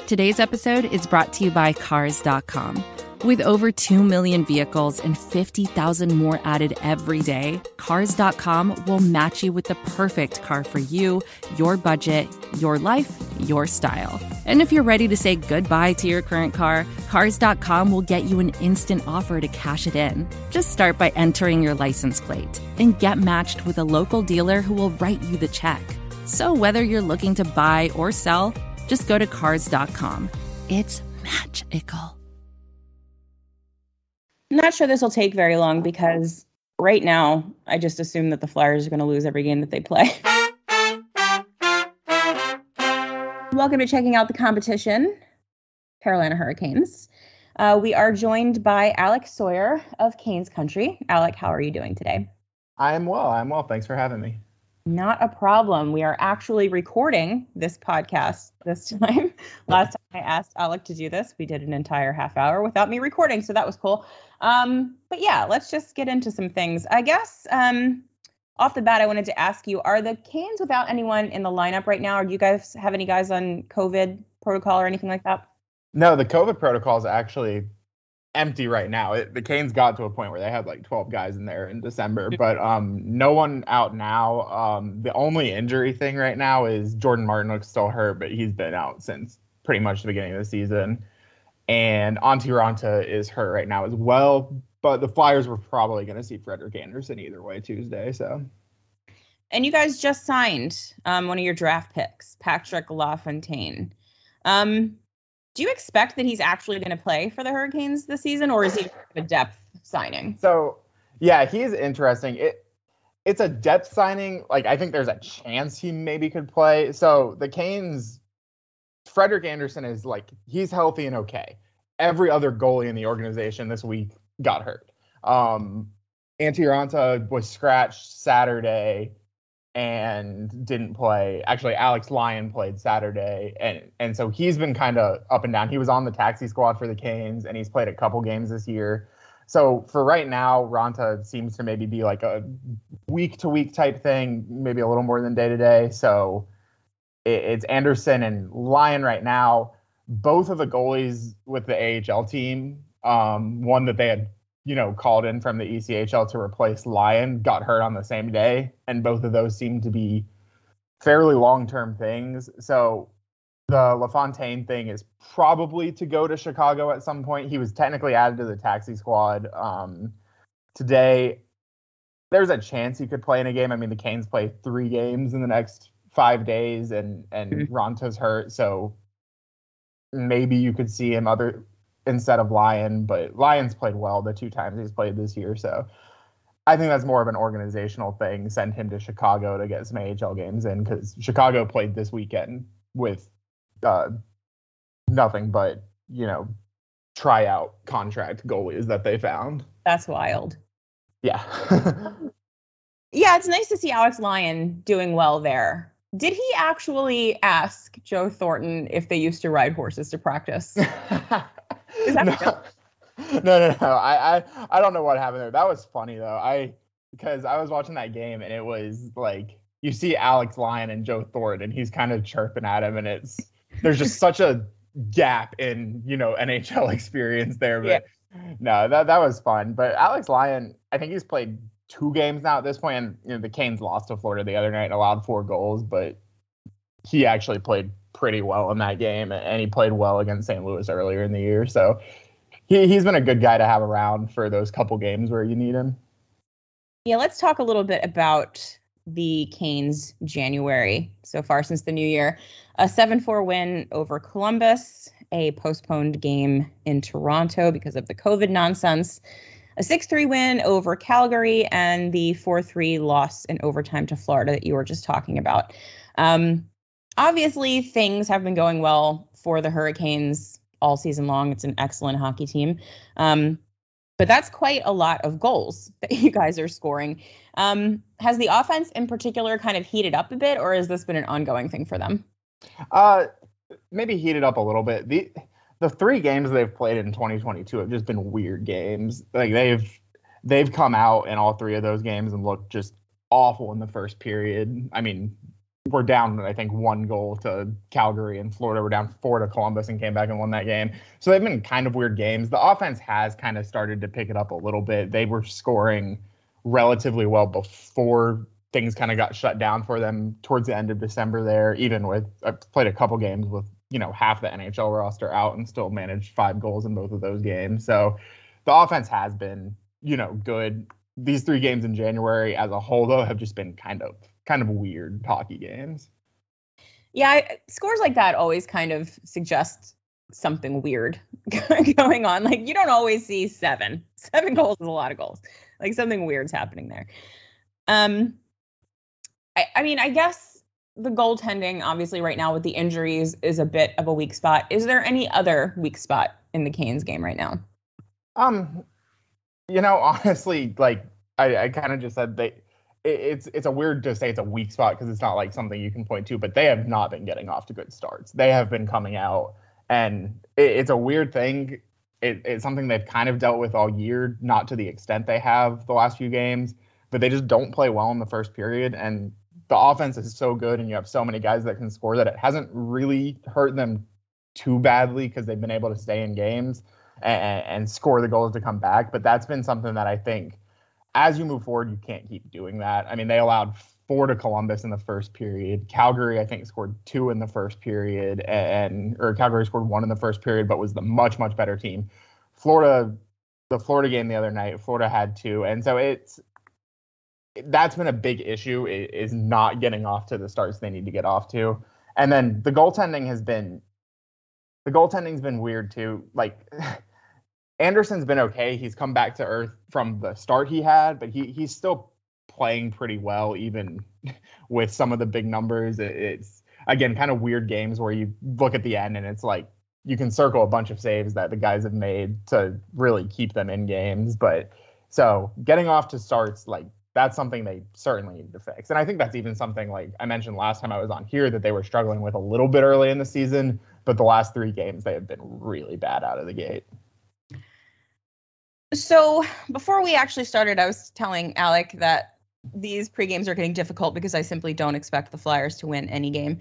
Today's episode is brought to you by Cars.com. With over 2 million vehicles and 50,000 more added every day, Cars.com will match you with the perfect car for you, your budget, your life, your style. And if you're ready to say goodbye to your current car, Cars.com will get you an instant offer to cash it in. Just start by entering your license plate and get matched with a local dealer who will write you the check. So whether you're looking to buy or sell, just go to Cars.com. It's magical. I'm not sure this will take very long because right now I just assume that the Flyers are going to lose every game that they play. Welcome to Checking Out the Competition, Carolina Hurricanes. We are joined by Alec Sawyer of Canes Country. Alec, how are you doing today? I'm well. Thanks for having me. Not a problem. We are actually recording this podcast this time. Last time I asked Alec to do this, we did an entire half hour without me recording, so that was cool. But yeah, let's just get into some things. I guess off the bat, I wanted to ask you, are the Canes without anyone in the lineup right now? Or do you guys have any guys on COVID protocol or anything like that? No, the COVID protocol is actually empty right now. The Canes got to a point where they had like 12 guys in there in December, but no one out now. The only injury thing right now is Jordan Martinook's still hurt, but he's been out since pretty much the beginning of the season. And Antti Raanta is hurt right now as well, but the Flyers were probably going to see Frederik Andersen either way Tuesday. So, and you guys just signed one of your draft picks, Patrick LaFontaine. Do you expect that he's actually going to play for the Hurricanes this season, or is he a depth signing? So, yeah, he's interesting. It's a depth signing. Like, I think there's a chance he maybe could play. So the Canes, Frederik Andersen is like, he's healthy and okay. Every other goalie in the organization this week got hurt. Antti Raanta was scratched Saturday and didn't play. Actually, Alex Lyon played Saturday, and so he's been kind of up and down. He was on the taxi squad for the Canes, and he's played a couple games this year. So for right now, Raanta seems to maybe be like a week-to-week type thing, maybe a little more than day-to-day. So it's Andersen and Lyon right now. Both of the goalies with the AHL team, one that they had called in from the ECHL to replace Lyon, got hurt on the same day. And both of those seem to be fairly long-term things. So the LaFontaine thing is probably to go to Chicago at some point. He was technically added to the taxi squad today. There's a chance he could play in a game. I mean, the Canes play 3 games in the next 5 days, and Ranta's hurt. So maybe you could see him instead of Lyon, but Lyon's played well the 2 times he's played this year. So I think that's more of an organizational thing. Send him to Chicago to get some AHL games in, because Chicago played this weekend with nothing but, tryout contract goalies that they found. That's wild. Yeah. Yeah, it's nice to see Alex Lyon doing well there. Did he actually ask Joe Thornton if they used to ride horses to practice? Is that No. I don't know what happened there. That was funny though. Because I was watching that game, and it was like, you see Alex Lyon and Joe Thornton, and he's kind of chirping at him, and there's just such a gap in NHL experience there. But no, that was fun. But Alex Lyon, I think he's played 2 games now at this point, and the Canes lost to Florida the other night and allowed 4 goals, but he actually played pretty well in that game, and he played well against St. Louis earlier in the year. So he's been a good guy to have around for those couple games where you need him. Yeah, let's talk a little bit about the Canes January so far since the new year. A 7-4 win over Columbus, a postponed game in Toronto because of the COVID nonsense, a 6-3 win over Calgary, and the 4-3 loss in overtime to Florida that you were just talking about. Obviously, things have been going well for the Hurricanes all season long. It's an excellent hockey team. But that's quite a lot of goals that you guys are scoring. Has the offense in particular kind of heated up a bit, or has this been an ongoing thing for them? Maybe heated up a little bit. The 3 games they've played in 2022 have just been weird games. Like they've come out in all 3 of those games and looked just awful in the first period. I mean, were down, I think, 1 goal to Calgary, and Florida were down 4 to Columbus and came back and won that game. So they've been kind of weird games. The offense has kind of started to pick it up a little bit. They were scoring relatively well before things kind of got shut down for them towards the end of December there, even with, I played a couple games with, half the NHL roster out and still managed 5 goals in both of those games. So the offense has been, good. These 3 games in January as a whole, though, have just been kind of weird hockey games. Yeah, scores like that always kind of suggest something weird going on. Like, you don't always see 7. 7 goals is a lot of goals. Like, something weird's happening there. I mean, I guess the goaltending, obviously, right now with the injuries is a bit of a weak spot. Is there any other weak spot in the Canes game right now? Honestly, like I kind of just said, it's a weird to say it's a weak spot because it's not like something you can point to, but they have not been getting off to good starts. They have been coming out, and it's a weird thing. It's something they've kind of dealt with all year, not to the extent they have the last few games, but they just don't play well in the first period. And the offense is so good, and you have so many guys that can score that it hasn't really hurt them too badly because they've been able to stay in games and score the goals to come back. But that's been something that I think as you move forward, you can't keep doing that. I mean, they allowed 4 to Columbus in the first period. Calgary, I think, scored 2 in the first period, or Calgary scored 1 in the first period, but was the much, much better team. The Florida game the other night, Florida had 2. And so that's been a big issue, is not getting off to the starts they need to get off to. And then the goaltending's been weird too. Like, Anderson's been okay. He's come back to earth from the start he had, but he's still playing pretty well, even with some of the big numbers. It's, again, kind of weird games where you look at the end and it's like you can circle a bunch of saves that the guys have made to really keep them in games. But so getting off to starts, like, that's something they certainly need to fix. And I think that's even something, like I mentioned last time I was on here, that they were struggling with a little bit early in the season, but the last 3 games they have been really bad out of the gate. So before we actually started, I was telling Alec that these pre-games are getting difficult because I simply don't expect the Flyers to win any game.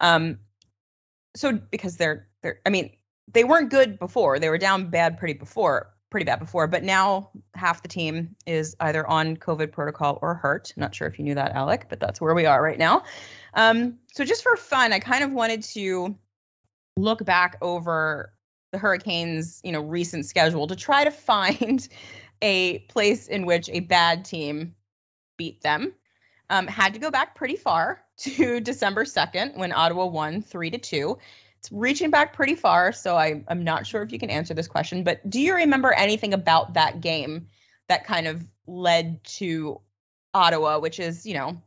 So because they weren't good before. They were down pretty bad before, but now half the team is either on COVID protocol or hurt. Not sure if you knew that, Alec, but that's where we are right now. So just for fun, I kind of wanted to look back over the Hurricanes, recent schedule to try to find a place in which a bad team beat them. Had to go back pretty far to December 2nd when Ottawa won 3-2. It's reaching back pretty far, so I'm not sure if you can answer this question, but do you remember anything about that game that kind of led to Ottawa, which is,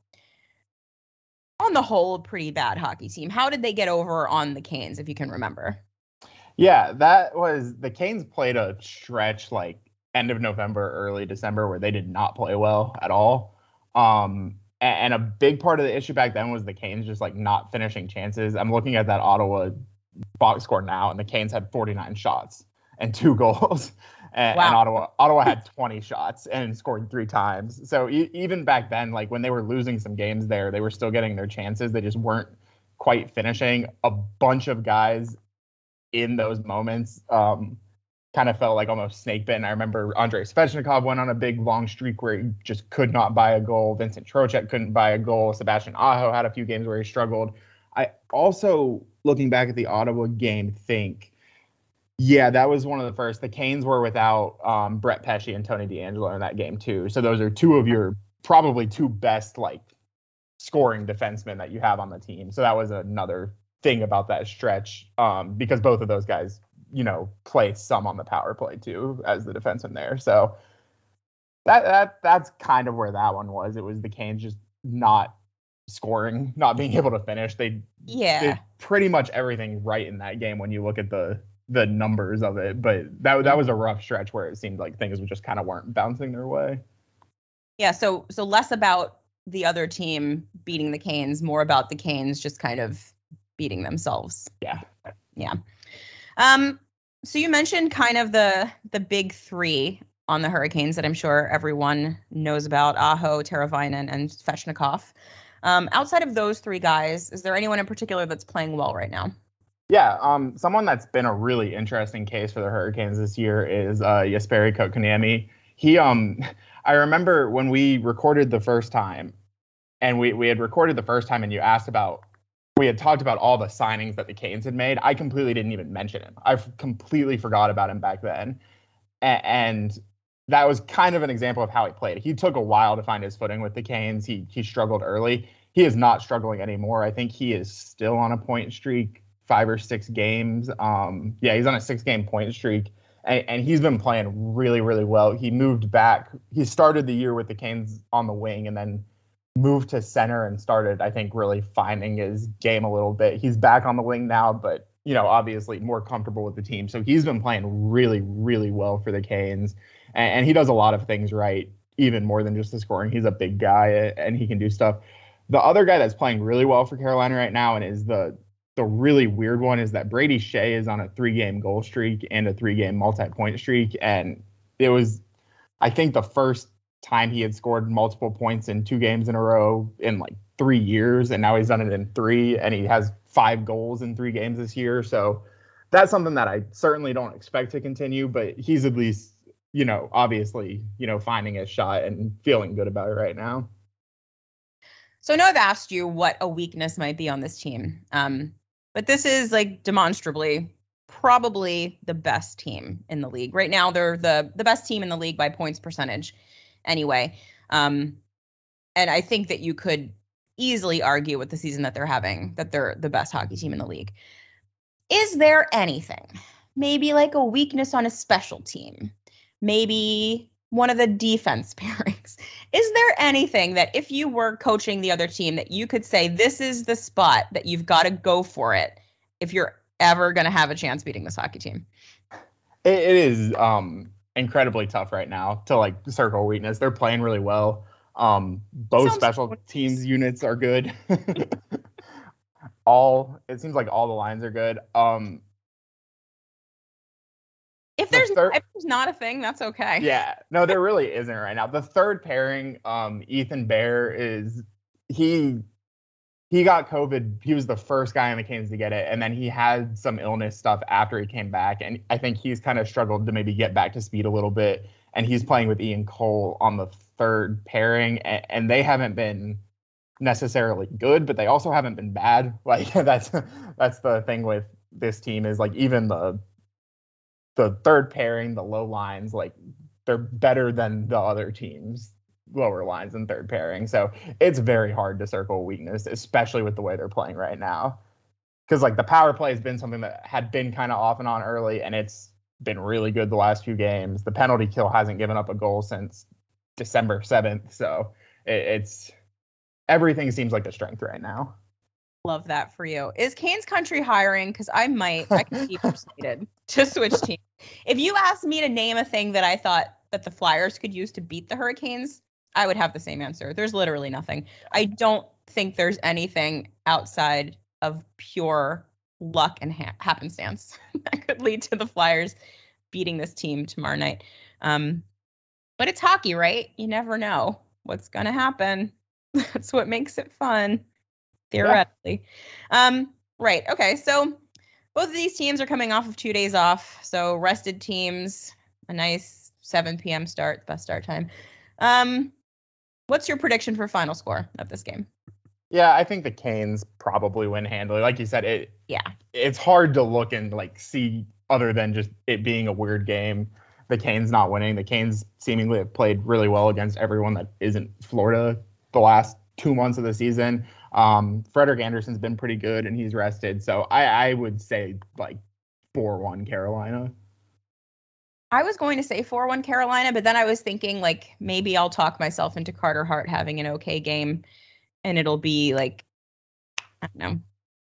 on the whole, a pretty bad hockey team? How did they get over on the Canes, if you can remember? Yeah, the Canes played a stretch like end of November, early December, where they did not play well at all. And a big part of the issue back then was the Canes just like not finishing chances. I'm looking at that Ottawa box score now, and the Canes had 49 shots and 2 goals. And Ottawa had 20 shots and scored 3 times. So even back then, like when they were losing some games there, they were still getting their chances. They just weren't quite finishing. A bunch of guys in those moments kind of felt like almost snake bitten. I remember Andrei Svechnikov went on a big long streak where he just could not buy a goal. Vincent Trocheck couldn't buy a goal. Sebastian Aho had a few games where he struggled. I also, looking back at the Ottawa game, think, yeah, that was one of the first. The Canes were without Brett Pesce and Tony DeAngelo in that game too. So those are 2 of your probably 2 best like scoring defensemen that you have on the team. So that was another thing about that stretch, because both of those guys, play some on the power play too as the defenseman there. So that's kind of where that one was. It was the Canes just not scoring, not being able to finish. They did pretty much everything right in that game when you look at the numbers of it. But that was a rough stretch where it seemed like things just kind of weren't bouncing their way. Yeah. So less about the other team beating the Canes, more about the Canes just kind of beating themselves. Yeah. So you mentioned kind of the big 3 on the Hurricanes that I'm sure everyone knows about: Aho, Teravainen, and Svechnikov. Outside of those three guys, is there anyone in particular that's playing well right now? Yeah, someone that's been a really interesting case for the Hurricanes this year is Jesperi Kotkaniemi. He, I remember when we recorded the first time, and we had recorded the first time, and you asked about, we had talked about all the signings that the Canes had made. I completely didn't even mention him. I completely forgot about him back then, and that was kind of an example of how he played. He took a while to find his footing with the Canes. He struggled early. He is not struggling anymore. I think he is still on a point streak, 5 or 6 games. He's on a 6-game point streak, and he's been playing really, really well. He moved back. He started the year with the Canes on the wing and then moved to center and started, I think, really finding his game a little bit. He's back on the wing now, but, obviously more comfortable with the team. So he's been playing really, really well for the Canes. And he does a lot of things right, even more than just the scoring. He's a big guy, and he can do stuff. The other guy that's playing really well for Carolina right now, and is the really weird one, is that Brady Skjei is on a 3-game goal streak and a 3-game multi-point streak. And it was, I think, the first time he had scored multiple points in 2 games in a row in like 3 years. And now he's done it in 3, and he has 5 goals in 3 games this year. So that's something that I certainly don't expect to continue, but he's at least, obviously, finding his shot and feeling good about it right now. So I know I've asked you what a weakness might be on this team. But this is like demonstrably probably the best team in the league. Right now, they're the best team in the league by points percentage anyway. And I think that you could easily argue with the season that they're having that they're the best hockey team in the league. Is there anything, maybe like a weakness on a special team? Maybe one of the defense pairings. Is there anything that if you were coaching the other team that you could say, this is the spot that you've got to go for it if you're ever going to have a chance beating this hockey team? It is incredibly tough right now to circle weakness. They're playing really well. Both special teams units are good. It seems like all the lines are good. If there's not a thing, that's okay. Yeah, no, there really isn't right now. The third pairing, Ethan Bear he got COVID. He was the first guy on the Canes to get it, and then he had some illness stuff after he came back, and I think he's kind of struggled to maybe get back to speed a little bit. And he's playing with Ian Cole on the third pairing, and they haven't been necessarily good, but they also haven't been bad. That's the thing with this team is even the third pairing, the low lines, they're better than the other teams' lower lines and third pairing. So it's very hard to circle a weakness, especially with the way they're playing right now. Because the power play has been something that had been kind of off and on early, and it's been really good the last few games. The penalty kill hasn't given up a goal since December 7th. So it's everything seems like a strength right now. Love that for you. Is Canes Country hiring? Because I can be persuaded to switch teams. If you asked me to name a thing that I thought that the Flyers could use to beat the Hurricanes, I would have the same answer. There's literally nothing. I don't think there's anything outside of pure luck and happenstance that could lead to the Flyers beating this team tomorrow night. But it's hockey, right? You never know what's going to happen. That's what makes it fun. Theoretically. Yeah. Right. Okay. So both of these teams are coming off of 2 days off. So rested teams, a nice 7 p.m. start, best start time. What's your prediction for final score of this game? Yeah, I think the Canes probably win handily. Like you said, it's hard to look and see other than just it being a weird game. The Canes not winning. The Canes seemingly have played really well against everyone that isn't Florida the last 2 months of the season. Frederik Andersen's been pretty good and he's rested. So I would say 4-1 Carolina. I was going to say 4-1 Carolina, but then I was thinking maybe I'll talk myself into Carter Hart having an okay game and it'll be I don't know,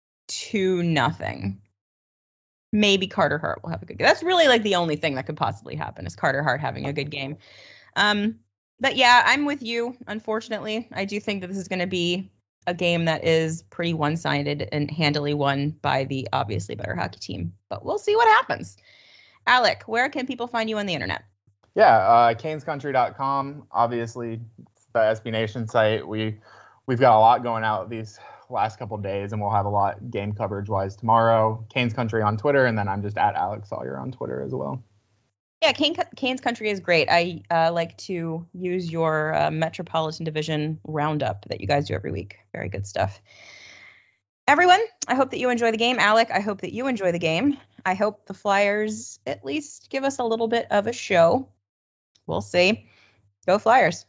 2-0. Maybe Carter Hart will have a good game. That's really the only thing that could possibly happen is Carter Hart having a good game. But yeah, I'm with you. Unfortunately, I do think that this is going to be a game that is pretty one-sided and handily won by the obviously better hockey team. But we'll see what happens. Alec, where can people find you on the internet? Yeah, canescountry.com. Obviously, it's the SB Nation site. We we've got a lot going out these last couple of days, and we'll have a lot game coverage wise tomorrow. Canes Country on Twitter, and then I'm just at Alex Sawyer on Twitter as well. Yeah, Canes Country is great. I like to use your Metropolitan Division roundup that you guys do every week. Very good stuff. Everyone, I hope that you enjoy the game. Alec, I hope that you enjoy the game. I hope the Flyers at least give us a little bit of a show. We'll see. Go Flyers.